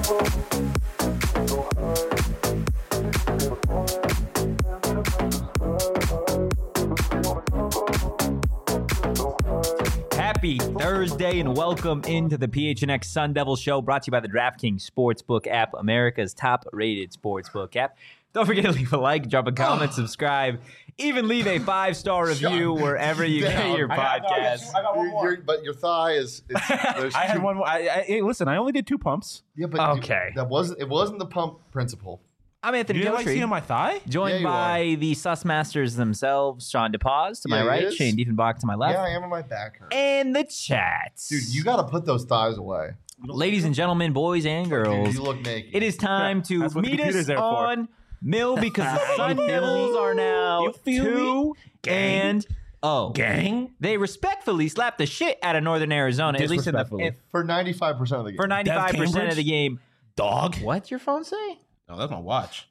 Happy Thursday and welcome into the PHNX Sun Devil Show, brought to you by the DraftKings Sportsbook app, America's top-rated sportsbook app. Don't forget to leave a like, drop a comment, subscribe, even leave a 5-star review wherever you get your podcast. I got one more. But your thigh is. I had one more. Hey, listen, I only did 2 pumps. Yeah, but okay. It wasn't the pump principle. I'm Anthony You didn't like Giltry, seeing my thigh? joined by the Sus Masters themselves, Sean DePaz to my Yeah, he right, is. Shane Diefenbach to my left, Yeah, I am on my back hurt. and the chat. Dude, you got to put those thighs away. Ladies and gentlemen, boys and Dude, girls, you look naked. it is time to That's what the meet computer's us there for. on Mill because the Sun You feel Devils me? are now You feel 2 Gang. and 0. Gang? They respectfully slapped the shit out of Northern Arizona, at least in the Disrespectfully. for 95% of the game. for 95% of Cambridge? the game. Dog? What's your phone say? No, that's my watch.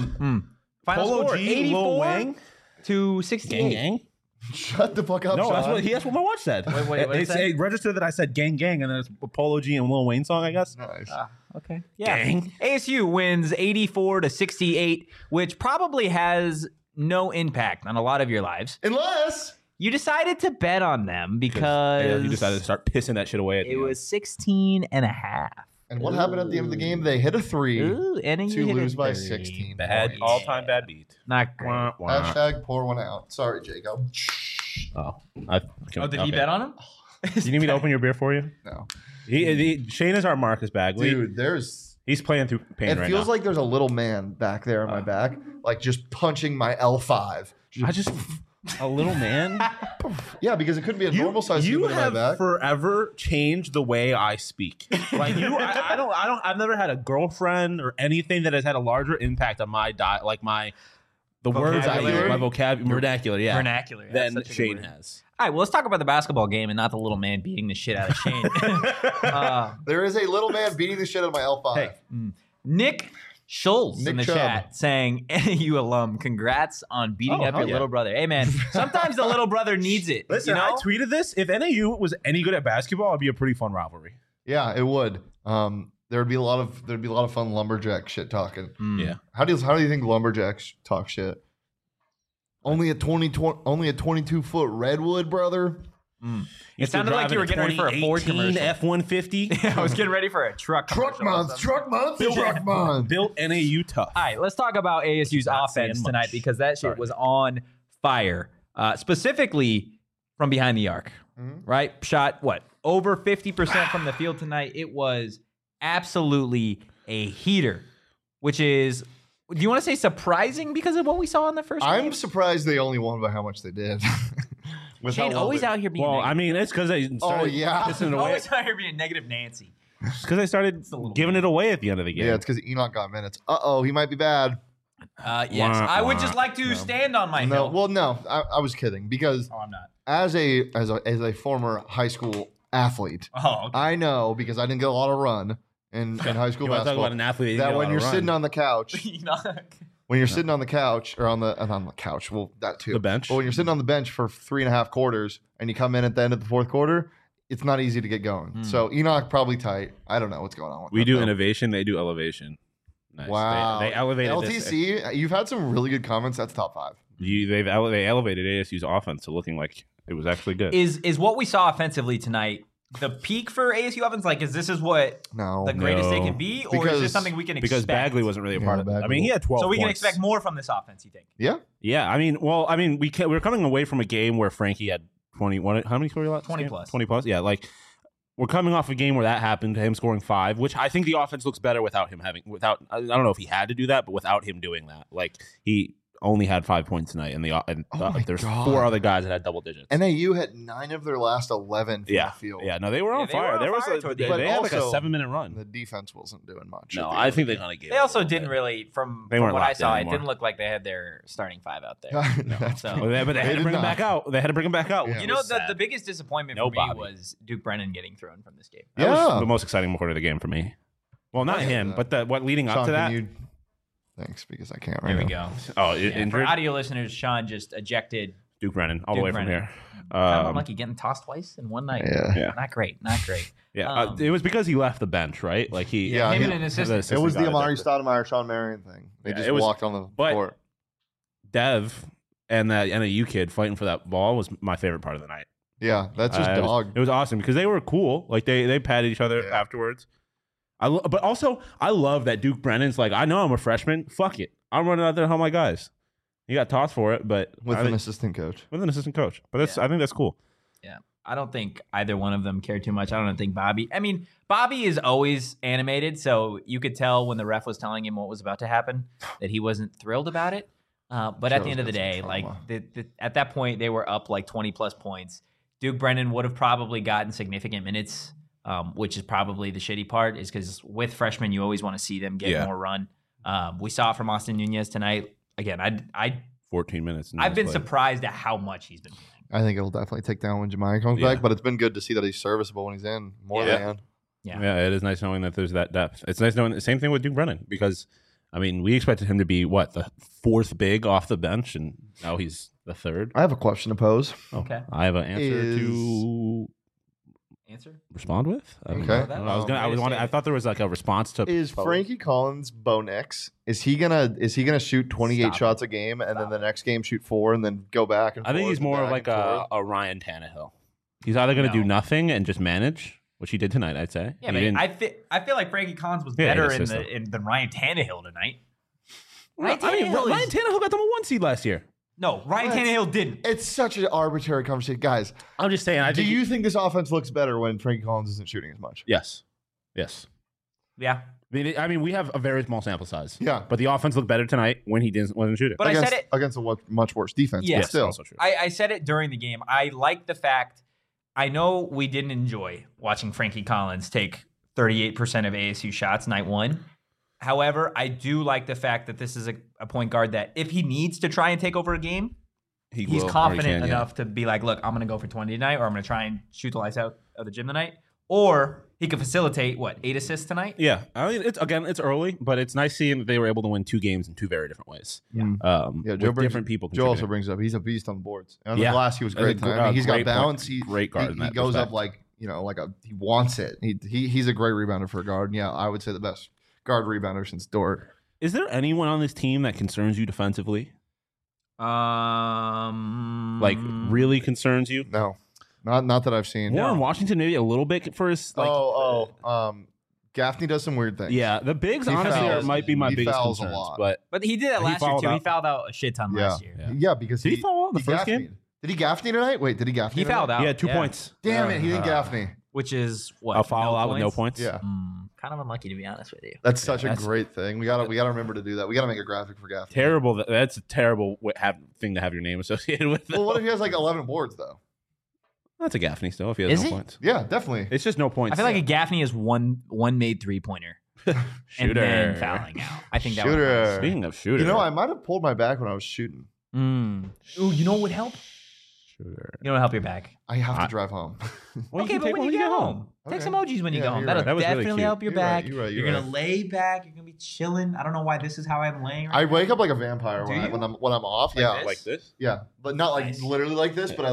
Final Polo score, G, 84 Lil Wang? to 68. Gang? Shut the fuck up, No, Sean. that's what my watch said. Wait, what did it say? It registered that I said gang, gang, and then it's a Polo G and Lil Wayne song, I guess. Nice. Okay. Yeah. Gang. ASU wins 84 to 68, which probably has no impact on a lot of your lives. Unless You decided to bet on them because you decided to start pissing that shit away at it was 16 and a half. and what happened at the end of the game? They hit a 3 Ooh, and to you lose hit by a 3. 16 bad, points. all-time bad beat. Not great. Wah, wah. Hashtag pour one out. Sorry, Jacob. Oh, Did he bet on him? You need me to open your beer for you? No. Shane is our Marcus Bagley. Dude, He's playing through pain it right feels now. like there's a little man back there on my back, like just punching my L5. A little man. Yeah, because it couldn't be a normal size You human in my have back. forever changed the way I speak. Like I've never had a girlfriend or anything that has had a larger impact on my diet, like the words I use, Vocabulary? my vocabulary, vernacular, yeah, Vernacular. Yeah, than that's such a good Shane word. has. All right, well, let's talk about the basketball game and not the little man beating the shit out of Shane. There is a little man beating the shit out of my L5. Hey. Nick Schultz in the Nick Chubb. chat saying, NAU alum, congrats on beating Oh, up your hell yeah. little brother. Hey, man, sometimes the little brother needs it. Listen, you know? I tweeted this. If NAU was any good at basketball, it'd be a pretty fun rivalry. Yeah, it would. There'd be a lot of fun lumberjack shit talking. Yeah. How do you think lumberjacks talk shit? Only a 22-foot redwood, brother. It sounded like you were getting ready for a Ford commercial. F-150. I was getting ready for a truck commercial or something. Truck month. Built NAU tough. All right, let's talk about ASU's Not offense saying tonight much. because that shit Sorry. was on fire, specifically from behind the arc, right? Shot, over 50% from the field tonight. It was absolutely a heater, which is, do you want to say surprising because of what we saw in the first I'm game? surprised they only won by how much they did. With Shane how well always they- out here being Well, negative. I mean, it's because they started yeah. pissing it away. Always out here being negative Nancy. Because they started giving it away at the end of the game. Yeah, it's because Enoch got minutes. He might be bad. Yes, Wah, I would wah. just like to stand on my No, hill. well, no, I was kidding because Oh, I'm not. as a former high school athlete, Oh, okay. I know because I didn't get a lot of run in high school You want to talk basketball. about an athlete That when you're sitting on the couch, when you're sitting on the couch or on the couch, well, that too. The bench. But when you're sitting on the bench for 3.5 quarters and you come in at the end of the fourth quarter, it's not easy to get going. So Enoch probably tight. I don't know what's going on with we that, do though. innovation, they do elevation. Nice. Wow. They elevated this. LTC, you've had some really good comments. That's top 5. They elevated ASU's offense to looking like it was actually good. Is what we saw offensively tonight the peak for ASU offense? Like, is this what No. the greatest they No. can be, or is Because- this something we can expect? because Bagley wasn't really a part of it. I Bagley. mean, he had 12 so we can points. expect more from this offense. You think? Yeah. Yeah, I mean, we're coming away from a game where Frankie had 21. How many scored? 20 plus. 20 plus. Yeah, like we're coming off a game where that happened, him scoring 5, which I think the offense looks better without him having. I don't know if he had to do that, but without him doing that, like he only had 5 points tonight, and my there's God. 4 other guys that had double digits. NAU had 9 of their last 11 from the field. Yeah, no, they were on they were fire. on There was fire a, toward they, the end. they had like a Also, 7-minute run. The defense wasn't doing much. No, at the I end think of they the kind of gave. They also didn't really, from weren't what I locked saw, in it anymore. didn't look like they had their starting 5 out there. game. No. So But they had They to did bring him not. back out. They had to bring him back out. Yeah. which you know, was the sad. biggest disappointment No for me Bobby. was Duke Brennan getting thrown from this game. That was Yeah. the most exciting part of the game for me. Well, not Yeah. him, but what leading Sean, up to that. can you... Thanks, because I can't right There we now. go. Oh, Yeah, for injured. audio listeners, Sean just ejected. Duke Brennan, all Duke the way Brennan. from here. Kind of unlucky getting tossed twice in one night. Yeah. Yeah. Not great. Not great. Yeah, it was because he left the bench, right? Like Yeah, him he- and an assistant. It was the got Amari ejected. Stoudemire, Sean Marion thing. They Yeah, just it was- walked on the but- court. Dev and that NAU kid fighting for that ball was my favorite part of the night. Yeah, that's just It was- dog. It was awesome because they were cool. Like they patted each other Yeah. afterwards. But also I love that Duke Brennan's like, I know I'm a freshman. Fuck it, I'm running out there to help my guys. He got tossed for it, but With I an think- assistant coach. with an assistant coach. But that's I think that's cool. I don't think either one of them cared too much. I don't think Bobby. I mean, Bobby is always animated, so you could tell when the ref was telling him what was about to happen that he wasn't thrilled about it. But at the end of the day, like at that point, they were up like 20 plus points. Duke Brennan would have probably gotten significant minutes, which is probably the shitty part, is because with freshmen, you always want to see them get more run. We saw it from Austin Nunez tonight. Again, 14 minutes. I've been surprised at how much he's been playing. I think it'll definitely take down when Jemiah comes back, but it's been good to see that he's serviceable when he's in. More than. Yeah, it is nice knowing that there's that depth. It's nice knowing the same thing with Duke Brennan because, I mean, we expected him to be the fourth big off the bench, and now he's the third. I have a question to pose. Okay. I have an answer to respond with. I don't Okay. know. I thought there was like a response to. Is Frankie Collins Bo Nix? Is he gonna shoot 28 shots a game and then the next game shoot 4 and then go back and I think forth he's and more back of like and forth? a Ryan Tannehill. He's either going to do nothing and just manage, which he did tonight, I'd say. Yeah, He but didn't- I feel like Frankie Collins was Yeah, better he was than Ryan Tannehill tonight. Ryan Tannehill got them a 1 seed last year. No, Ryan What? Tannehill didn't. It's such an arbitrary conversation, guys. I'm just saying. Do you think this offense looks better when Frankie Collins isn't shooting as much? Yes. Yeah. I mean, we have a very small sample size. Yeah. But the offense looked better tonight when he wasn't shooting. But against, I said it. against a much worse defense. Yeah. But still, also true. I said it during the game. I like the fact. I know we didn't enjoy watching Frankie Collins take 38% of ASU shots night one. However, I do like the fact that this is a point guard that if he needs to try and take over a game, He he's will, or he confident can, yeah. enough to be like, look, I'm going to go for 20 tonight, or I'm going to try and shoot the lights out of the gym tonight. Or he could facilitate, 8 assists tonight? Yeah, I mean, it's early, but it's nice seeing that they were able to win 2 games in 2 very different ways. Yeah, with Joe brings, different people. Joe also contributing. brings up he's a beast on the boards. And on Yeah. the glass, he was That's great a tonight. I mean, he's got great point. balance. Great guard in He that goes respect. up he wants it. He's a great rebounder for a guard. And yeah, I would say the best guard rebounder since Dort. Is there anyone on this team that concerns you defensively? Like really concerns you? No, not that I've seen. Warren Washington maybe a little bit for his Gaffney does some weird things. Yeah, the bigs He honestly fouls. might be my He biggest fouls a concerns. lot. But he did that He last year fouled too. He out. fouled out a shit ton last year. Yeah, because Did he foul out in the first game? Gaffneyed. Did he Gaffney tonight? Wait, did he Gaffney? He fouled tonight? out. Yeah, 2 points. Damn it, he didn't Gaffney. Which is what? A foul out with no points. Yeah, Kind of unlucky, to be honest with you. that's such a that's- great thing. We gotta remember to do that. We gotta make a graphic for Gaffney. Terrible. That's a terrible thing to have your name associated with. Well, what if he has 11 boards though? That's a Gaffney still if he has Is no he? points. Yeah, definitely. It's just no points. I feel like a Gaffney is one made 3-pointer and Shooter. then fouling out. I think that Shooter. Speaking of shooter, You know, I might have pulled my back when I was shooting. Ooh, you know what would help? shooter. You know what would help your back? I have to drive home. Well, Okay, you can but take when one you get home, take Okay. some emojis when you Yeah, go home. you're That'll right. That was really definitely cute. help your You're right, back. you're right, You're you're gonna right. lay back. You're gonna be chilling. I don't know why this is how I'm laying. I Right wake up like a vampire Do you? when I'm off. Like Yeah, this? like this. yeah, but not Nice. literally like this. But I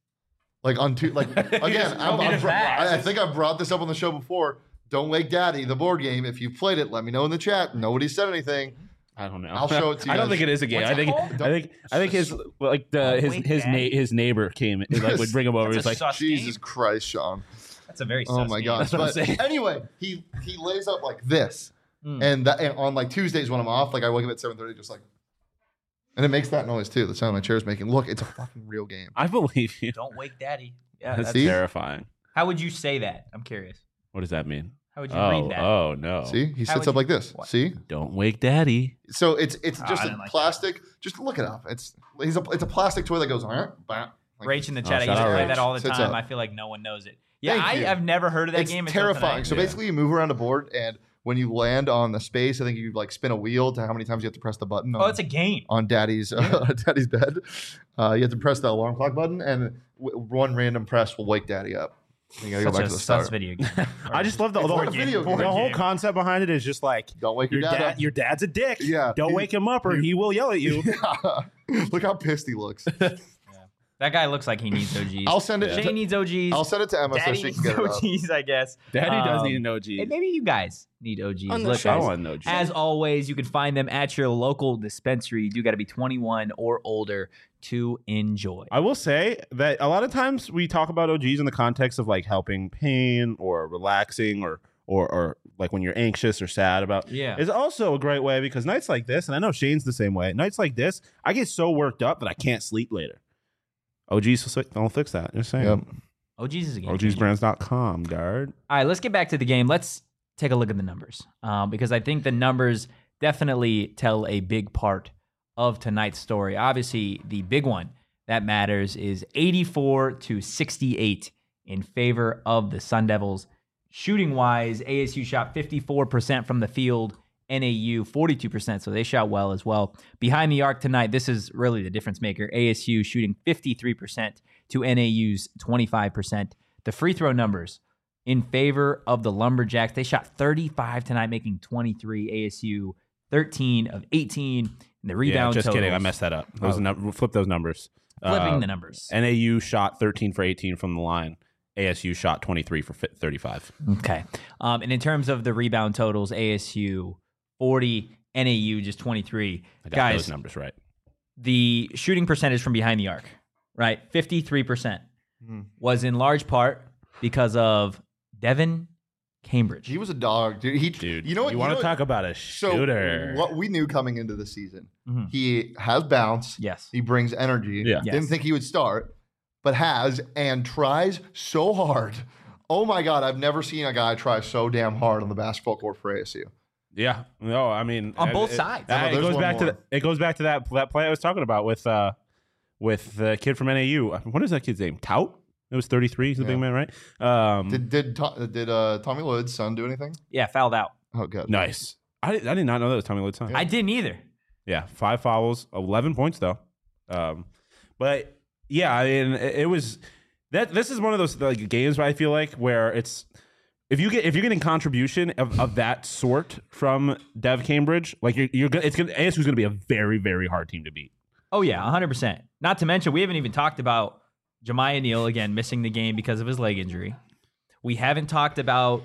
on two again. just told me to I relax. think I've brought this up on the show before. Don't Wake Daddy, the board game. If you've played it, let me know in the chat. Nobody said anything. I don't know. I'll show it to you I don't guys. think it is a game. What's it called? I think his Wake Daddy? his neighbor came would bring him over. That's He's a like, sus Jesus game. Christ, Sean. That's a very Oh sus my game. gosh. That's what I'm But saying. anyway, he lays up like this. And on Tuesdays when I'm off, I wake up at 7:30 just and it makes that noise too. The sound my chair's making. Look, it's a fucking real game. I believe you. Don't wake daddy. Yeah. That's See? terrifying. How would you say that? I'm curious. What does that mean? How would you Oh, read that? oh no! See, he How sits would up you- like this. what? See, Don't wake daddy. so it's Oh, just I a didn't like that. plastic. Just look it up. It's a plastic toy that goes Rach in the chat. I shout used to out play Rach. that all the Sits time. up. I feel like no one knows it. Yeah, Thank you. I've never heard of that It's game. until terrifying. tonight. So Yeah. basically, you move around a board, and when you land on the space, I think you spin a wheel to how many times you have to press the button. Oh, it's a game. on Daddy's Daddy's bed. You have to press the alarm clock button, and one random press will wake Daddy up. You gotta go Such back a to the sus start. video game. I just love the It's whole not a video game. The whole game. concept behind it is just like Don't wake your dad up. Your dad's a dick. Yeah. Don't wake him up or he will yell at you. Look how pissed he looks. That guy looks like he needs OGs. I'll send it. Shane needs OGs. I'll send it to Emma so Daddy she needs can get it up. OGs, I guess. Daddy does need Um, an OG. And maybe you guys need OGs. On the Look, show. I guys, want an OG. as always, you can find them at your local dispensary. You do got to be 21 or older to enjoy. I will say that a lot of times we talk about OGs in the context of like helping pain or relaxing or like when you're anxious or sad about. Yeah. It's also a great way because nights like this, and I know Shane's the same way. Nights like this, I get so worked up that I can't sleep later. OGs don't fix that. Just saying. Yep. OGs is a game changer. OGsbrands.com, guard. All right, let's get back to the game. Let's take a look at the numbers because I think the numbers definitely tell a big part of tonight's story. Obviously, the big one that matters is 84-68 in favor of the Sun Devils. Shooting wise, ASU shot 54% from the field, NAU 42%, so they shot well as well. Behind the arc tonight, this is really the difference maker. ASU shooting 53% to NAU's 25%. The free throw numbers in favor of the Lumberjacks, they shot 35 tonight, making 23. ASU 13 of 18. And the rebound just totals, kidding. I messed that up. Flip those numbers. Flipping the numbers. NAU shot 13 for 18 from the line. ASU shot 23 for 35. Okay. And in terms of the rebound totals, ASU 40, NAU just 23. I got Guys, those numbers right. the shooting percentage from behind the arc, right? 53% was in large part because of Devin Cambridge. He was a dog, dude. Dude, you know what? You want to know- talk about a So shooter? what we knew coming into the season, Mhm. he has bounce. Yes. He brings energy. Yeah. Yes. Didn't think he would start, but has and tries so hard. Oh my God, I've never seen a guy try so damn hard on the basketball court for ASU. Yeah. No, I mean On both sides. No, It there's goes one back to more. it goes back to that play I was talking about with the kid from NAU. What is that kid's name? Tout? It was 33. He's the big Yeah. man, right? Did Tommy Lloyd's son do anything? Yeah, fouled out. Oh, good. Nice. I did not know that was Tommy Lloyd's son. I didn't either. Yeah, 5 fouls, 11 points though. But yeah, I mean, it was that. This is one of those like games where I feel like where it's if you're getting contribution of that sort from Dev Cambridge, like ASU's gonna be a very very hard team to beat. Oh, yeah, 100%. Not to mention, we haven't even talked about Jemiah Neal, again, missing the game because of his leg injury. We haven't talked about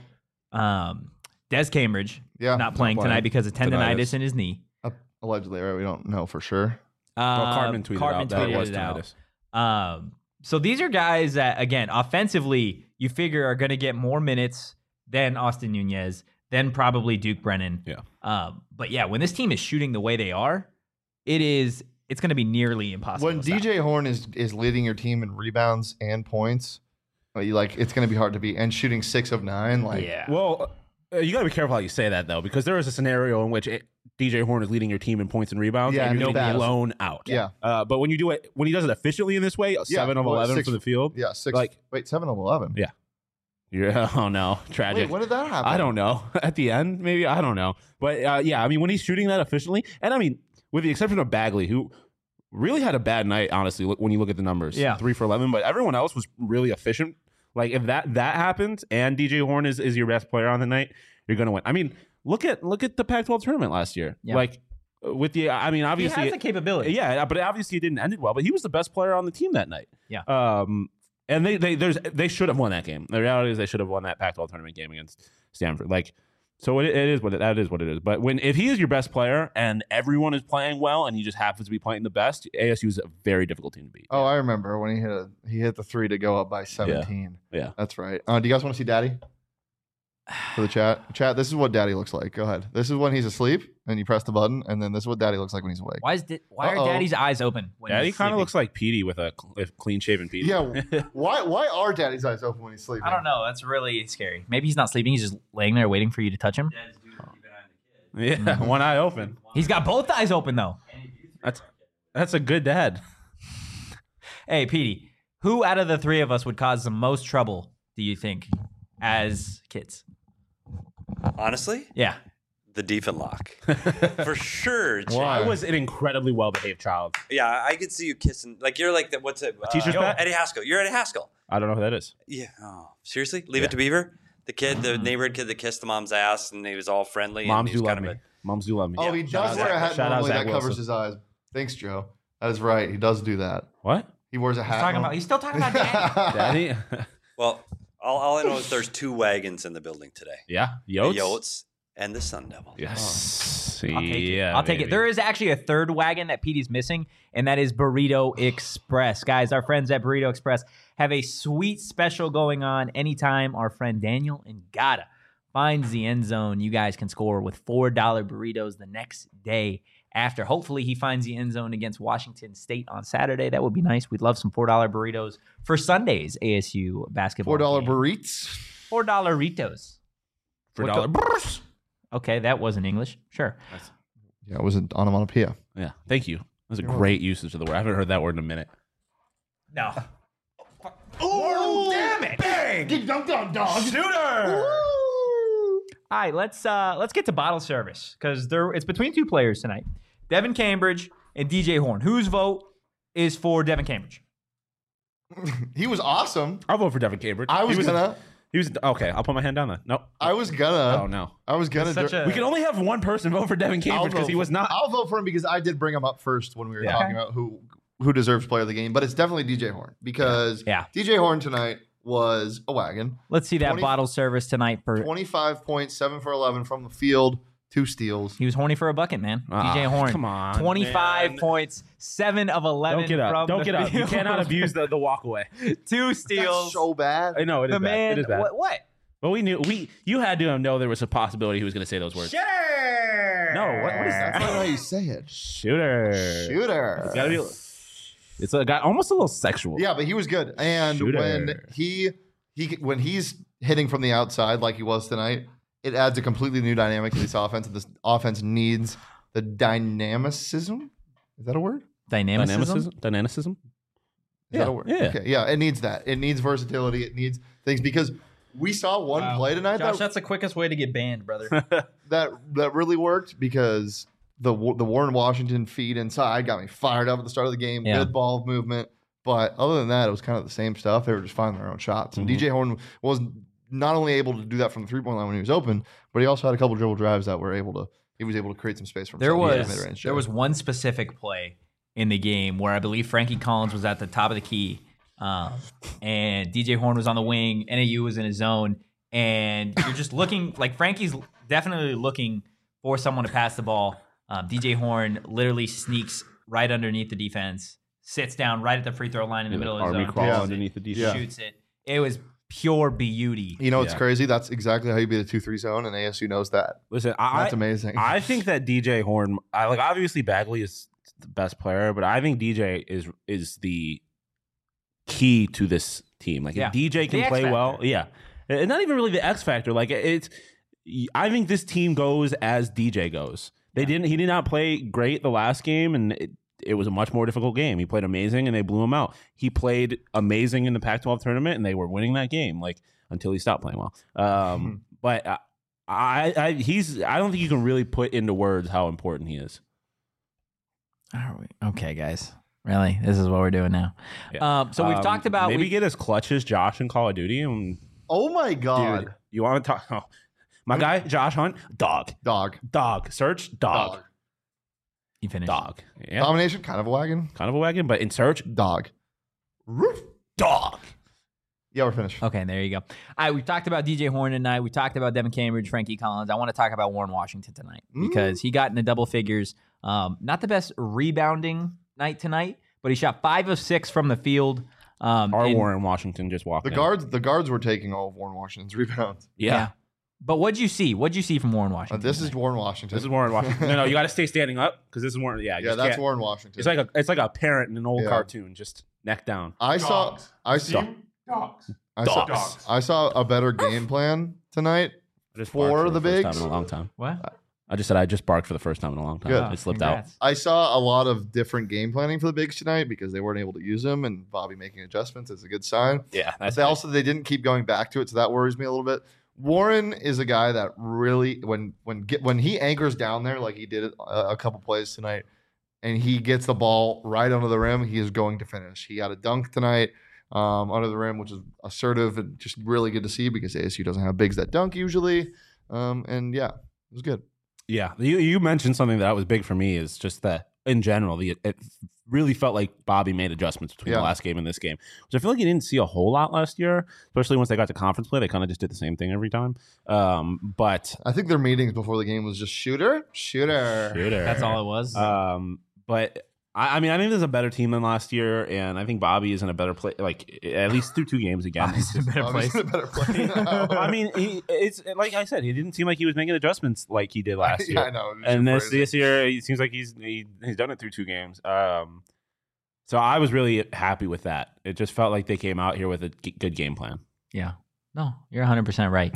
Des Cambridge not playing tonight because of tendonitis in his knee. Allegedly, right? We don't know for sure. Well, Cartman tweeted out that it was tinnitus. So these are guys that, again, offensively, you figure are going to get more minutes than Austin Nunez, then probably Duke Brennan. Yeah. But yeah, when this team is shooting the way they are, it's going to be nearly impossible. When to stop. DJ Horn is leading your team in rebounds and points, it's going to be hard to beat. And shooting 6 of 9, yeah. Well, you got to be careful how you say that though, because there is a scenario in which DJ Horn is leading your team in points and rebounds, Yeah, and you're and getting fouls. blown out. Yeah. But when he does it efficiently in this way, 7 of 11 6 for the field. Yeah, 6. Like- Wait, 7 of 11. Yeah. Yeah. Oh no, tragic. Wait, when did that happen? I don't know. At the end, maybe I don't know. But yeah, I mean, when he's shooting that efficiently, and I mean, with the exception of Bagley, who really had a bad night, honestly, when you look at the numbers. Yeah. 3 for 11, but everyone else was really efficient. Like if that happens and DJ Horn is your best player on the night, you're gonna win. I mean, look at the Pac-12 tournament last year. Yeah. Like with the, I mean, obviously, he has the capability. yeah, but obviously it didn't end it well. But he was the best player on the team that night. Yeah. And they should have won that game. The reality is they should have won that Pac-12 tournament game against Stanford. Like, so it is what it is. But if he is your best player and everyone is playing well and he just happens to be playing the best, ASU is a very difficult team to beat. Oh, I remember when he hit the 3 to go up by 17. Yeah. That's right. Do you guys want to see Daddy? For the chat? Chat, this is what Daddy looks like. Go ahead. This is when he's asleep and you press the button, and then this is what Daddy looks like when he's awake. Why are Uh-oh. Daddy's eyes open? When Daddy he's kind of sleeping? looks like Petey with a clean shaven Petey. Yeah. Why are Daddy's eyes open when he's sleeping? I don't know. That's really scary. Maybe he's not sleeping. He's just laying there waiting for you to touch him. Yeah, one eye open. He's got both eyes open though. That's a good dad. Hey, Petey, who out of the 3 of us would cause the most trouble, do you think, as kids? Honestly, Yeah. the Diefenlock. For sure. Chad. Why? I was an incredibly well-behaved child. Yeah, I could see you kissing. Like, you're like, what's it? teacher's pet? Eddie Haskell. You're Eddie Haskell. I don't know who that is. Yeah. Oh, seriously? Leave it to Beaver? The kid, the neighborhood kid that kissed the mom's ass and he was all friendly. Moms and he do was love kind me. of Moms do love me. Oh, he Shout does out wear a Zach- hat shout out normally Zach that covers Wilson. his eyes. Thanks, Joe. That is right. He does do that. What? He wears a hat. He's still talking about Danny. Daddy. Well, all I know is there's 2 wagons in the building today. Yeah. The Yotes. Yotes and the Sun Devils. Yes. I'll take it. Yeah, I'll take it. baby. There is actually a third wagon that Petey's missing, and that is Burrito Express. Guys, our friends at Burrito Express have a sweet special going on anytime our friend Daniel Ngata finds the end zone. You guys can score with $4 burritos the next day after. Hopefully, he finds the end zone against Washington State on Saturday. That would be nice. We'd love some $4 burritos for Sunday's ASU basketball $4 game. burritos. $4 burritos. For What $1. Okay, that wasn't English. Sure. Yeah, it was an onomatopoeia. Yeah. Thank you. That was a great usage of the word. I haven't heard that word in a minute. No. Oh, damn it! Bang! Shooter! All right, let's get to bottle service because it's between 2 players tonight, Devin Cambridge and DJ Horn. Whose vote is for Devin Cambridge? He was awesome. I'll vote for Devin Cambridge. I was He gonna. okay. I'll put my hand down then. Nope. I was gonna. Oh no. I was gonna. Such a- We can only have one person vote for Devin Cambridge because he was not. I'll vote for him because I did bring him up first when we were Yeah. talking about who deserves player of the game. But it's definitely DJ Horn because Yeah. DJ Horn tonight was a wagon. Let's see that 20 bottle service tonight for. 25 points, 7 for 11 from the field, 2 steals. He was horny for a bucket, man. Ah, DJ Horn. come on, 25 man. points, 7 of 11 Don't get up. from Don't the get up. You field. cannot abuse the walk away. 2 That's steals. so bad. I know it is the bad. man. It is bad. What? But we knew you had to know there was a possibility he was going to say those words. Sure. No, what is that? That's not how you say it. Shooter. Shooter. It's gotta be. It's got almost a little sexual. Yeah, but he was good. And Shooter. when he's hitting from the outside like he was tonight, it adds a completely new dynamic to this offense. This offense needs the dynamicism. Is that a word? Dynamicism. Dynamicism. Is that a word? Yeah. Okay. Yeah, it needs that. It needs versatility. It needs things because we saw one play tonight that's the quickest way to get banned, brother. that really worked because the Warren Washington feed inside got me fired up at the start of the game. Yeah. Good ball movement. But other than that, it was kind of the same stuff. They were just finding their own shots. And DJ Horn was not only able to do that from the 3-point line when he was open, but he also had a couple dribble drives that he was able to create some space for There himself. was one specific play in the game where I believe Frankie Collins was at the top of the key, and DJ Horn was on the wing. NAU was in his zone, and you're just looking like Frankie's definitely looking for someone to pass the ball. DJ Horn literally sneaks right underneath the defense, sits down right at the free throw line in the middle of the Army zone, crawl Yeah. underneath the defense. shoots it. It was pure beauty. You know what's Yeah. crazy? That's exactly how you beat a 2-3 zone, and ASU knows that. Listen, That's amazing. I think that DJ Horn, obviously Bagley is the best player, but I think DJ is the key to this team. Like Yeah. if DJ can The X play well, factor. yeah, and not even really the X factor. Like I think this team goes as DJ goes. He did not play great the last game, and it was a much more difficult game. He played amazing, and they blew him out. He played amazing in the Pac-12 tournament, and they were winning that game. Like until he stopped playing well. But I don't think you can really put into words how important he is. Are we? Okay, guys. Really? This is what we're doing now. Yeah. So we've talked about maybe get as clutch as Josh in Call of Duty. And Oh my God. dude, you want to talk? Oh, my guy Josh Hunt, dog, search, dog, You finished. dog. Yeah, Domination, kind of a wagon. kind of a wagon, but in search, Dog. dog. Yeah, we're finished. Okay, there you go. All right, we've talked about DJ Horn tonight. We talked about Devin Cambridge, Frankie Collins. I want to talk about Warren Washington tonight because he got into double figures. Not the best rebounding night tonight, but he shot 5 of 6 from the field. Warren Washington just walked. The guards were taking all of Warren Washington's rebounds. Yeah. But what'd you see? What'd you see from Warren Washington? This is tonight? Warren Washington. This is Warren Washington. No, you got to stay standing up because this is Warren. Yeah, Yeah, that's Warren Washington. It's like a parent in an old Yeah. cartoon, just neck down. I saw a better game plan tonight. I just For barked the first bigs? time in a long time. What? I just said I just barked for the first time in a long time. Good. It slipped Congrats. I saw a lot of different game planning for the bigs tonight because they weren't able to use them, and Bobby making adjustments is a good sign. out. Yeah, But they didn't keep going back to it, so that worries me a little bit. Warren is a guy that really, when he anchors down there like he did a couple plays tonight, and he gets the ball right under the rim, he is going to finish. He had a dunk tonight under the rim, which is assertive and just really good to see because ASU doesn't have bigs that dunk usually. And yeah, it was good. Yeah, you mentioned something that was big for me is just that in general, it really felt like Bobby made adjustments between the last game and this game, which I feel like you didn't see a whole lot last year, especially once they got to conference play. They kind of just did the same thing every time. But I think their meetings before the game was just shooter. That's all it was. But I mean, I think there's a better team than last year, and I think Bobby is in a better place. Like at least through 2 games again. He's in a better place. A better place. I mean, it's like I said, he didn't seem like he was making adjustments like he did last year. I know. And this year, it seems like he's done it through 2 games. So I was really happy with that. It just felt like they came out here with a good game plan. Yeah. No, you're 100% right.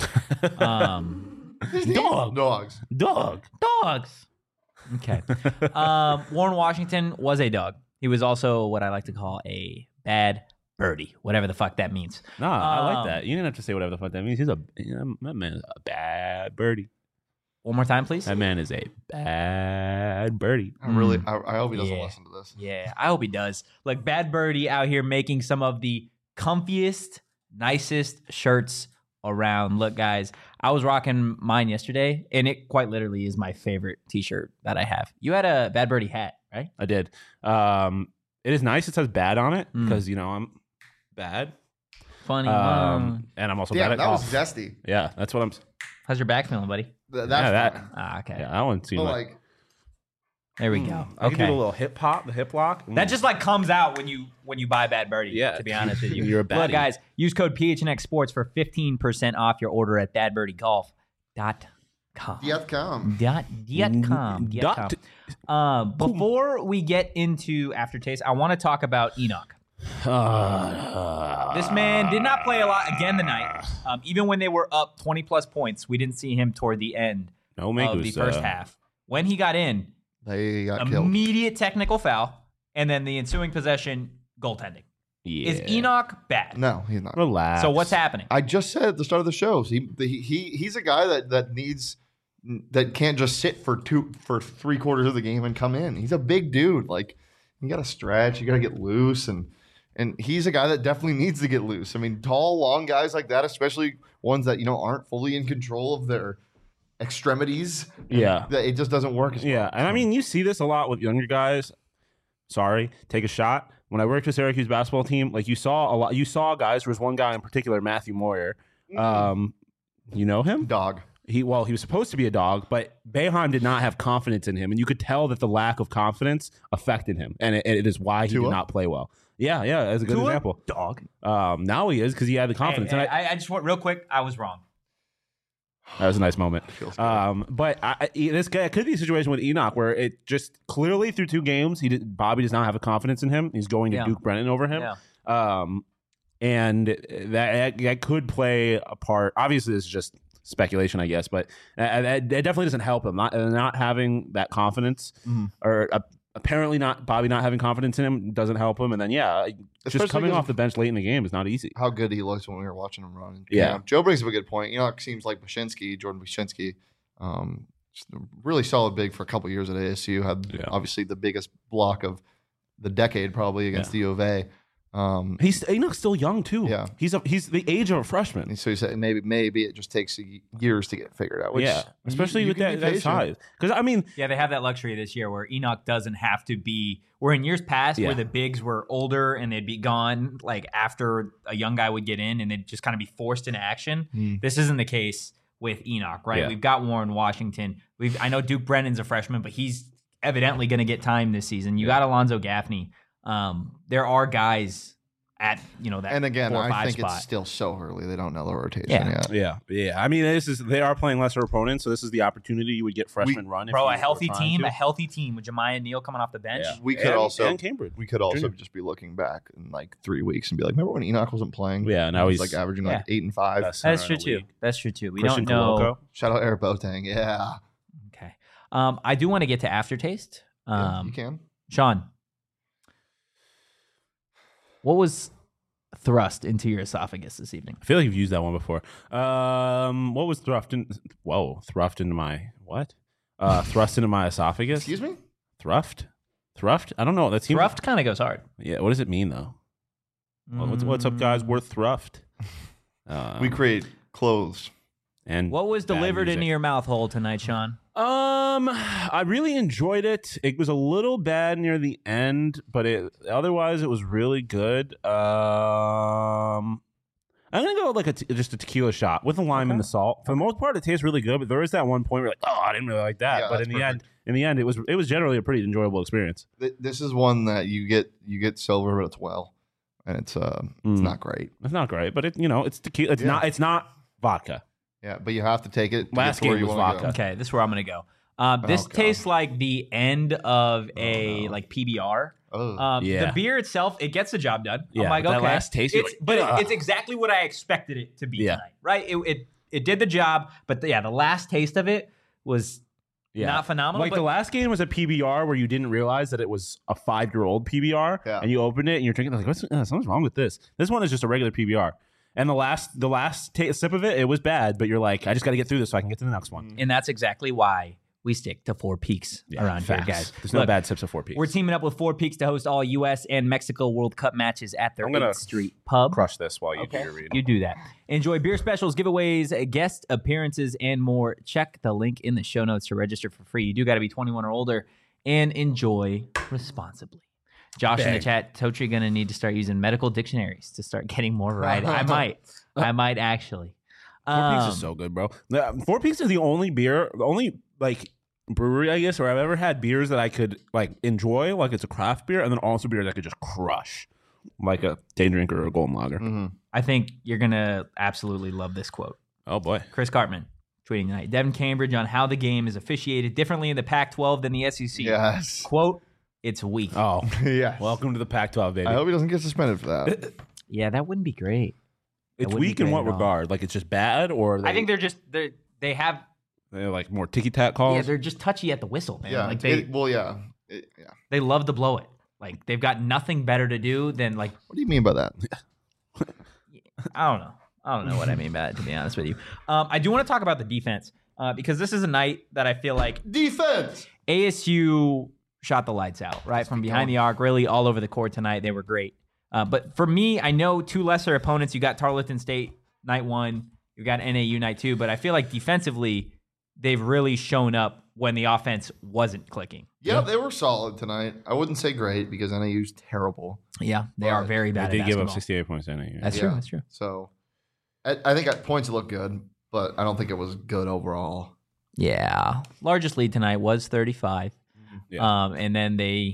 Dogs. Okay. Warren Washington was a dog. He was also what I like to call a bad birdie, whatever the fuck that means. No, I like that. You didn't have to say that means. That man is a bad birdie. One more time, please. That man is a bad birdie. I hope he doesn't listen to this. Yeah, I hope he does. Like bad birdie out here making some of the comfiest, nicest shirts around. Look, guys, I was rocking mine yesterday, and it quite literally is my favorite t-shirt that I have. You had a Bad Birdie hat, right? I did. It is nice. It says bad on it because, I'm bad. Funny. And I'm also bad at golf. That was zesty. Yeah, that's what I'm... How's your back feeling, buddy? That's fine. Okay. Yeah, that one seemed like... There we go. I can do a little hip hop, the hip lock. That just like comes out when you buy Bad Birdie. Yeah, to be honest with you, you're a baddie. Look, guys, use code PHNX Sports for 15% off your order at badbirdiegolf.com. Before we get into aftertaste, I want to talk about Enoch. This man did not play a lot again tonight. Even when they were up 20 plus points, we didn't see him toward the end of the first half. When he got in. They got killed. Immediate technical foul, and then the ensuing possession, goaltending. Yeah. Is Enoch bad? No, he's not. Relax. So what's happening? I just said at the start of the show, he's a guy that can't just sit for 3/4 of the game and come in. He's a big dude. Like you got to stretch, you got to get loose, and he's a guy that definitely needs to get loose. I mean, tall, long guys like that, especially ones that aren't fully in control of their extremities. Yeah. It just doesn't work as well. Yeah. And I mean, you see this a lot with younger guys. Sorry, take a shot. When I worked with Syracuse basketball team, like you saw guys, there was one guy in particular, Matthew Moyer. You know him? Dog. He was supposed to be a dog, but Boeheim did not have confidence in him. And you could tell that the lack of confidence affected him. And it is why he did not play well. Yeah, that's a good example. Dog. Now he is because he had the confidence. Hey, I just want real quick, I was wrong. That was a nice moment. But this guy could be a situation with Enoch where it just clearly through 2 games, Bobby does not have a confidence in him. He's going to Duke Brennan over him. Yeah. And that could play a part. Obviously, this is just speculation, I guess, but it definitely doesn't help him. Not having that confidence or apparently Bobby not having confidence in him doesn't help him. And then, just coming off the bench late in the game is not easy. How good he looks when we were watching him run. Yeah. Joe brings up a good point. It seems like Jordan Wyszynski, really solid big for a couple years at ASU. Had obviously the biggest block of the decade probably against the U of A. Enoch's still young too. Yeah. He's the age of a freshman. And so he said maybe it just takes years to get figured out. Which especially with that size. Because I mean, they have that luxury this year where Enoch doesn't have to be. Where in years past, where the bigs were older and they'd be gone like after a young guy would get in and they'd just kind of be forced into action. This isn't the case with Enoch, right? Yeah. We've got Warren Washington. I know Duke Brennan's a freshman, but he's evidently going to get time this season. You got Alonzo Gaffney. There are guys at that. And again, 4 or 5 I think spot. it's still so early. They don't know the rotation yet. Yeah. I mean, they are playing lesser opponents, so this is the opportunity you would get freshman run. Bro, a healthy team with Jemiah Neal coming off the bench. Yeah. We could also Cambridge. We could also just be looking back in like 3 weeks and be like, remember when Enoch wasn't playing? Yeah, now he's like averaging like 8 and 5. That's true too. That's true too. We Christian don't know. Koloko. Shout out Eric Boateng. Yeah. Okay. I do want to get to aftertaste. You can. Sean, what was thrust into your esophagus this evening? I feel like you've used that one before. What was thrust into my what? Thrust into my esophagus. Excuse me? Thrust? I don't know. That seems Thrust kind of goes hard. Yeah. What does it mean though? What's up, guys? We're thrust. We create clothes. And what was bad delivered into music. your mouth hole tonight, Sean? I really enjoyed it. It was a little bad near the end, but otherwise it was really good. I'm gonna go with like just a tequila shot with the lime and the salt. For the most part, it tastes really good, but there is that one point where you're like, oh, I didn't really like that. Yeah, but that's perfect. in the end, it was generally a pretty enjoyable experience. This is one that you get silver, but it's well, and it's not great. It's not great, but it's tequila. It's not vodka. Yeah, but you have to take it. To Last get to where game you was wanna vodka. go. Okay, this is where I'm gonna go. This God. tastes like the end of a like PBR. Oh. Yeah. The beer itself, it gets the job done. Yeah, I'm like, but that okay. last taste, you're It's, like, but ugh. it's exactly what I expected it to be Yeah. tonight, right? It did the job, but the last taste of it was not phenomenal. Like but the last game was a PBR where you didn't realize that it was a 5-year-old PBR, Yeah. and you opened it and you're drinking like, something's wrong with this. This one is just a regular PBR. And the last sip of it was bad, but you're like, I just got to get through this so I can get to the next one. and that's exactly why we stick to Four Peaks around Facts. here, guys. There's no Look, bad sips of 4 Peaks. We're teaming up with Four Peaks to host all U.S. and Mexico World Cup matches at their I'm gonna 8th Street pub. Crush this while you do Okay, your read. you do that. Enjoy beer specials, giveaways, guest appearances, and more. Check the link in the show notes to register for free. You do got to be 21 or older and enjoy responsibly. Josh in the chat, Totri going to need to start using medical dictionaries to start getting more variety. I might actually. 4 Peaks is so good, bro. 4 Peaks is the only like brewery, I guess, where I've ever had beers that I could like enjoy, like it's a craft beer, and then also beers I could just crush, like a day drinker or a golden lager. Mm-hmm. I think you're going to absolutely love this quote. Oh boy. Chris Cartman tweeting tonight. Devin Cambridge on how the game is officiated differently in the Pac-12 than the SEC. Yes. Quote, it's weak. Oh, Yeah. welcome to the Pac-12, baby. I hope he doesn't get suspended for that. Yeah, that wouldn't be great. It's wouldn't be weak in great what at all. regard? Like it's just bad, or I think they have they're like more ticky-tack calls. yeah, they're just touchy at the whistle, man. Yeah. Like yeah. they love to blow it. Like they've got nothing better to do than like What do you mean by that? I don't know what I mean by that, to be honest with you. I do want to talk about the defense because this is a night that I feel like Defense. ASU shot the lights out, right? From behind the arc, really all over the court tonight. They were great. But for me, I know two lesser opponents. You got Tarleton State night 1. You got NAU night 2. But I feel like defensively, they've really shown up when the offense wasn't clicking. Yeah, they were solid tonight. I wouldn't say great because NAU's terrible. Yeah, they are very They bad did at give up basketball. 68 points in it. That's Yeah. true. That's true. So I think at points it looked good, but I don't think it was good overall. Yeah. Largest lead tonight was 35. Yeah. And then they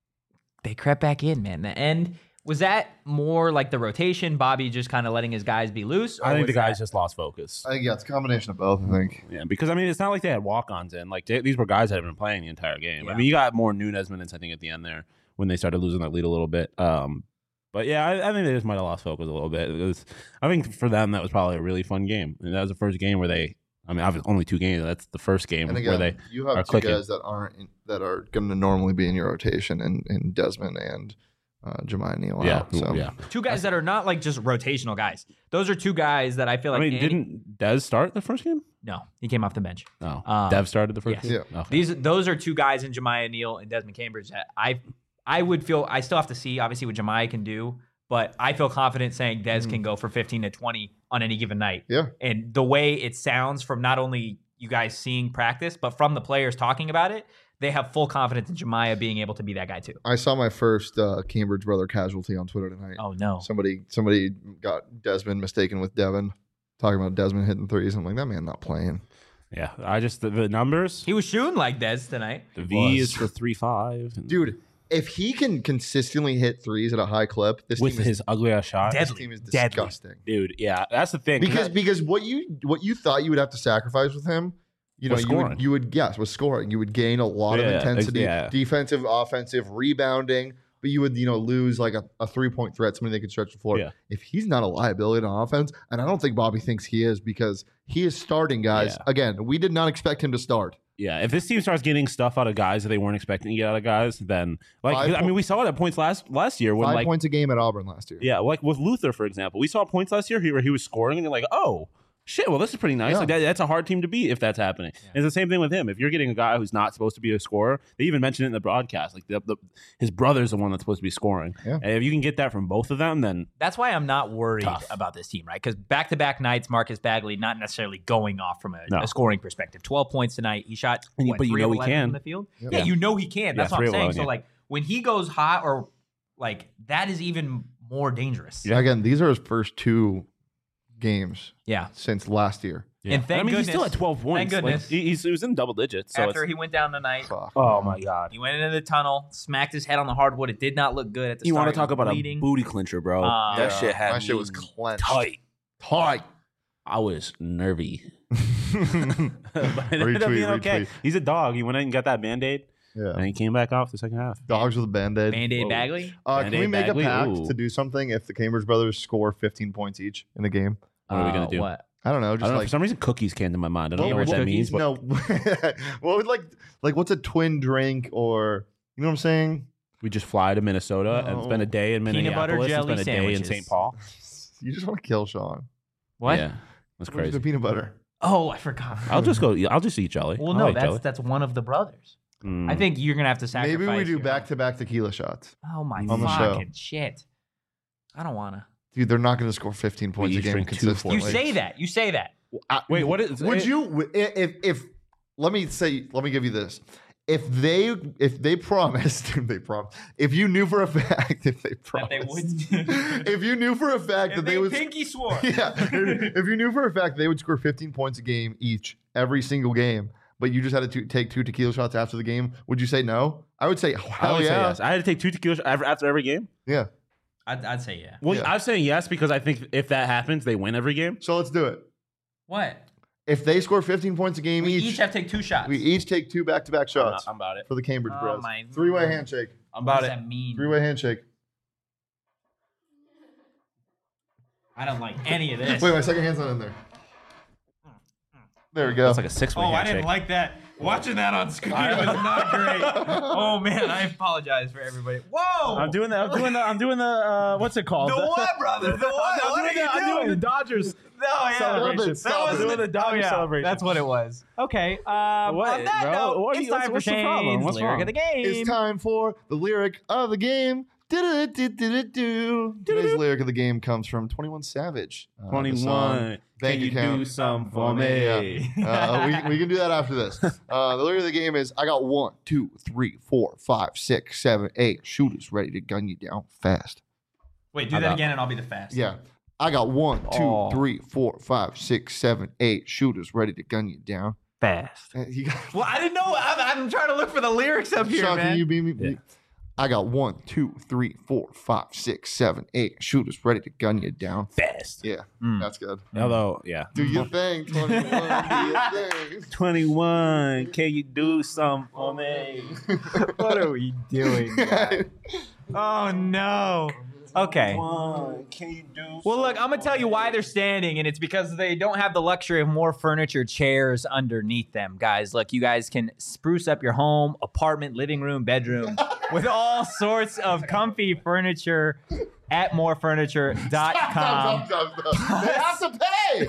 crept back in, man. The end. Was that more like the rotation, Bobby just kind of letting his guys be loose? I think was the guys that- just lost focus. I think it's a combination of both. I think. Yeah, because I mean, it's not like they had walk-ons in. Like these were guys that had been playing the entire game. Yeah. I mean, you got more Nunez minutes, I think, at the end there when they started losing that lead a little bit. But yeah, I think they just might have lost focus a little bit. I think for them that was probably a really fun game. And that was the first game where they. I mean, obviously only 2 games. That's the first game And where again, they. you are have two clicking. guys that are going to normally be in your rotation, in Desmond and Jemiah Neal Yeah, out. So. yeah. Two guys that are not like just rotational guys. Those are two guys that I feel like. I mean, Andy- didn't Dez start the first game? No, he came off the bench. No, Dev started the first yes. game. Yeah. Okay. Those are two guys in Jemiah Neal and Desmond Cambridge that I would feel. I still have to see obviously what Jemiah can do, but I feel confident saying Des can go for 15 to 20 on any given night. Yeah. And the way it sounds from not only you guys seeing practice, but from the players talking about it, they have full confidence in Jemiah being able to be that guy too. I saw my first Cambridge brother casualty on Twitter tonight. Oh no. Somebody got Desmond mistaken with Devin, talking about Desmond hitting threes. I'm like, that man not playing. Yeah, I just the numbers. He was shooting like Des tonight. The V was. is for 3.5. Dude, if he can consistently hit threes at a high clip, this with team his ugly ass shot. this Deadly. team is Deadly. disgusting. Dude, yeah, that's the thing. Because what you thought you would have to sacrifice with him, you know, Was scoring. you would yes, with scoring, you would gain a lot of Yeah, intensity, yeah. defensive, offensive, rebounding, but you would lose like a 3-point threat, somebody that could stretch the floor. Yeah. If he's not a liability on offense, and I don't think Bobby thinks he is because he is starting guys. Yeah. Again, we did not expect him to start. yeah, if this team starts getting stuff out of guys that they weren't expecting to get out of guys, then Five I mean, we saw it at points last year when 5 like points a game at Auburn last year. yeah, like with Luther for example, we saw points last year where he was scoring and you're like, oh, shit, well, this is pretty nice. Yeah. Like that's a hard team to beat if that's happening. Yeah. And it's the same thing with him. If you're getting a guy who's not supposed to be a scorer, they even mentioned it in the broadcast. Like his brother's the one that's supposed to be scoring. Yeah. And if you can get that from both of them, then That's why I'm not worried Tough. about this team, right? Because back-to-back nights, Marcus Bagley not necessarily going off from No. a scoring perspective. 12 points tonight. He shot, And you- what, but you 3 know of he 11 can. from the field. Yep. Yeah, Yeah. you know he can. That's Yeah, what 3 I'm saying. of 11, So, yeah. like, when he goes hot or, like, that is even more dangerous. Yeah. Again, these are his first 2 games Yeah. since last year. And thank I mean, he's goodness- still at 12 points. thank Like, goodness. he was in double digits. So After it's, he went down tonight, Fuck. oh my god. he went into the tunnel, smacked his head on the hardwood. It did not look good at the You start. want to talk He was about bleeding. a booty clincher, bro? That Yeah. shit had My shit me was clenched. tight. Tight. I was nervy. But it ended up Retweet, being okay. retweet. He's a dog. He went in and got that Band-Aid, and Yeah. he came back off the second half. Dogs with a Band-Aid. Band-Aid Whoa. Bagley. Can we Band-Aid make Bagley? a pact Ooh. to do something if the Cambridge brothers score 15 points each in a game? What are we gonna do? What? I don't know. I Just don't know. For like some reason, cookies came to my mind. I don't know what that means. But No. What would like what's a twin drink or you know what I'm saying? we just fly to Minnesota and No. spend a day in Peanut butter Minneapolis and jelly spend a day in sandwiches. St. Paul. You just want to kill Sean. What? Yeah, that's Where's crazy. the peanut butter? Oh, I forgot. I'll just go. I'll just eat jelly. Well, I no, like jelly. that's one of the brothers. Mm. I think you're gonna have to sacrifice. Maybe we do your- back-to-back tequila shots. Oh my on the show. fucking shit! I don't wanna. Dude, they're not going to score 15 points a each game drink 2 consistently. You say that. You say that. Wait, what is? Would you if let me give you this. If they promised if you knew for a fact That they promised wouldn't. if you knew for a fact that they would pinky swore. yeah, if you knew for a fact they would score 15 points a game each every single game, but you just had to take 2 tequila shots after the game, would you say no? I would say I hell would say yeah. yes. I had to take 2 tequila after every game. Yeah. I'd say yeah. Well, Yeah. I'm saying yes because I think if that happens, they win every game. So let's do it. What? If they score 15 points a game We each, each have to take 2 shots. we each take 2 back-to-back shots I'm about it. for the Cambridge Oh Bros. my- 3-way handshake. I'm What about does it. that mean? 3-way handshake. I don't like any of this. Wait, my second hand's not in there. There we go. That's like a 6-way Oh, I handshake. didn't like that. Watching that on screen was not great. Oh man, I apologize for everybody. Whoa! I'm doing the. What's it called? the what, brother? The what? I'm doing the Dodgers No, yeah. celebration. Stop it. I'm doing the Dodgers celebration. That's what it was. Okay. What, on that bro? note, What are it's you- time what's for the problem? Shane's What's lyric wrong? of the game. It's time for the lyric of the game. Do-do-do-do-do-do. Today's lyric of the game comes from 21 Savage. The song 21. Bank Can you account do some for Yeah. me? We can do that after this. The lyric of the game is: I got 1, 2, 3, 4, 5, 6, 7, 8 shooters ready to gun you down fast. Wait, do How that about- again and I'll be the fast. Yeah. I got 1, 2, Oh. 3, 4, 5, 6, 7, 8 shooters ready to gun you down. Fast. You got, Well, I didn't know. I'm trying to look for the lyrics up here, Sean, man. can you beat me? Yeah. I got 1, 2, 3, 4, 5, 6, 7, 8 shooters ready to gun you down. Fast. Yeah, Mm. that's good. Although, yeah. Do your thing, 21. Do your thing. 21. Can you do some for me? What are we doing? Oh no. Okay. Can you do? Well, look, I'm gonna tell you why they're standing, and it's because they don't have the luxury of more furniture, chairs underneath them, guys. Look, you guys can spruce up your home, apartment, living room, bedroom with all sorts of comfy furniture at morefurniture.com. Stop. They have to pay.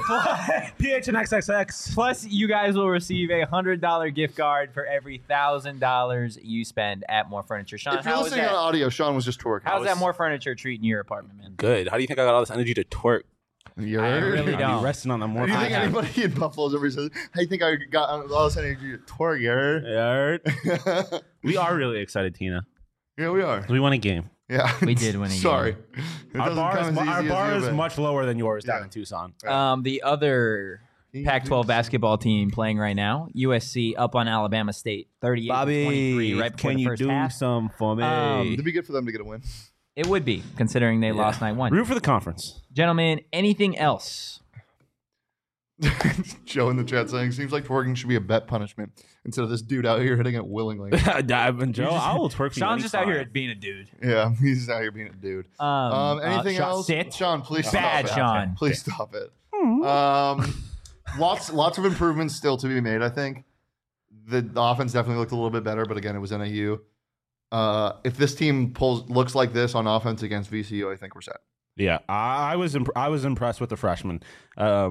PHNXXX. Plus, you guys will receive a $100 gift card for every $1,000 you spend at More Furniture. Sean, If you're how's listening on that? audio, Sean was just twerking. How's that More Furniture treating your apartment, man? Good. How do you think I got all this energy to twerk? You I heard? really I'll don't. be resting on the more. Do you think I have- anybody in Buffalo's ever says, "How you think I got all this energy to twerk?" You heard? Heard? We are really excited, Tina. Yeah, we are. We won a game. Yeah, We did win a game. Sorry, It Our doesn't bar, come is, as our easy as bar you, is but- much lower than yours down Yeah. in Tucson. The other Pac-12 basketball team playing right now, USC up on Alabama State, 38-23, right before can the you first do half. some for me? It'd be good for them to get a win. It would be, considering they lost night one. Root for the conference. Gentlemen, anything else? Joe in the chat saying, "Seems like twerking should be a bet punishment instead of this dude out here hitting it willingly." Joe, I will twerk for you Sean's just out here anytime. at being a dude. Yeah, he's out here being a dude. Anything Sean, else? Sit. Sean, please Bad, stop it. Sean. Please stop it. Lots of improvements still to be made. I think the offense definitely looked a little bit better, but again, it was NAU. If this team looks like this on offense against VCU, I think we're set. Yeah, I was impressed with the freshmen.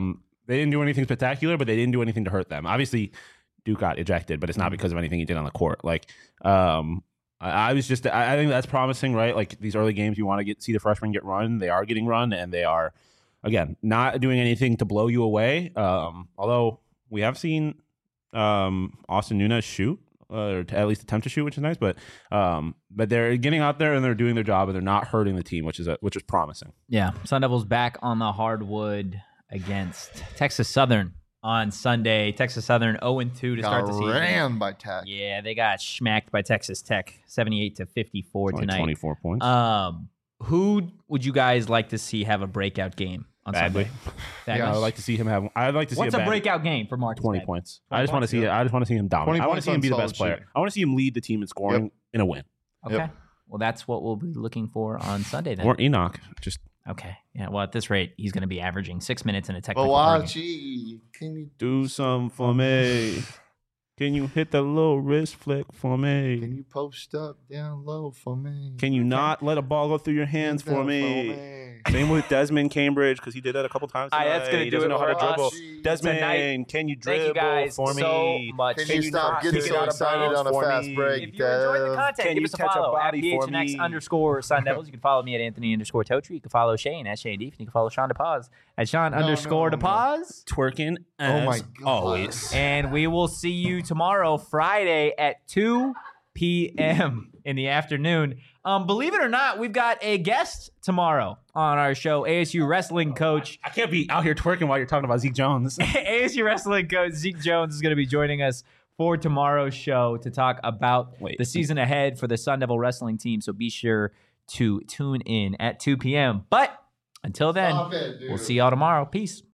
They didn't do anything spectacular, but they didn't do anything to hurt them. Obviously, Duke got ejected, but it's not because of anything he did on the court. Like, I think that's promising, right? Like these early games, you want to see the freshmen get run. They are getting run, and they are, again, not doing anything to blow you away. Although we have seen Austin Nunes shoot, or to at least attempt to shoot, which is nice. But they're getting out there and they're doing their job, and they're not hurting the team, which is promising. Yeah, Sun Devils back on the hardwood against Texas Southern on Sunday. Texas Southern 0-2 to start the season. Ran by Tech. Yeah, they got smacked by Texas Tech, 78-54 tonight. 24 points. Who would you guys like to see have a breakout game on Bagley. Sunday? Yeah, Bagley? I'd like to see him have. I'd like to see What's a breakout game for Marcus 20 Bagley? points. I just want to see. I just want to see him dominate. 20 I want to see him be the points best on player. solid I want to see him lead the team in scoring in a win. Okay. Yep. Well, that's what we'll be looking for on Sunday then. Or Enoch. Just Okay. Yeah. Well, at this rate, he's going to be averaging 6 minutes in a technical per game. Bawachi, can you do something for me. Can you hit the little wrist flick for me? post up down low for me? Can you not let a ball go through your hands for me? Same with Desmond Cambridge, because he did that a couple times. All right, that's tonight. gonna He do doesn't it know how to for dribble. us Desmond, tonight. can you dribble Thank you guys for so me? much. Can you stop not getting kick so it out of excited bounds on a for fast me? break? If you're enjoying the content, Can give you us a catch a follow at body for me? PHNX_Sun Devils. You can follow me at Anthony_Totri. You can follow Shane at Shane Deef. And you can follow Sean DePaz at Sean_DePaz. Twerking Oh my as God. always. And we will see you tomorrow, Friday at 2 p.m. in the afternoon. Believe it or not, we've got a guest tomorrow on our show, ASU wrestling coach. I can't be out here twerking while you're talking about Zeke Jones. ASU wrestling coach Zeke Jones is going to be joining us for tomorrow's show to talk about the season ahead for the Sun Devil wrestling team. So be sure to tune in at 2 p.m. But until then, Stop it, dude. we'll see y'all tomorrow. Peace.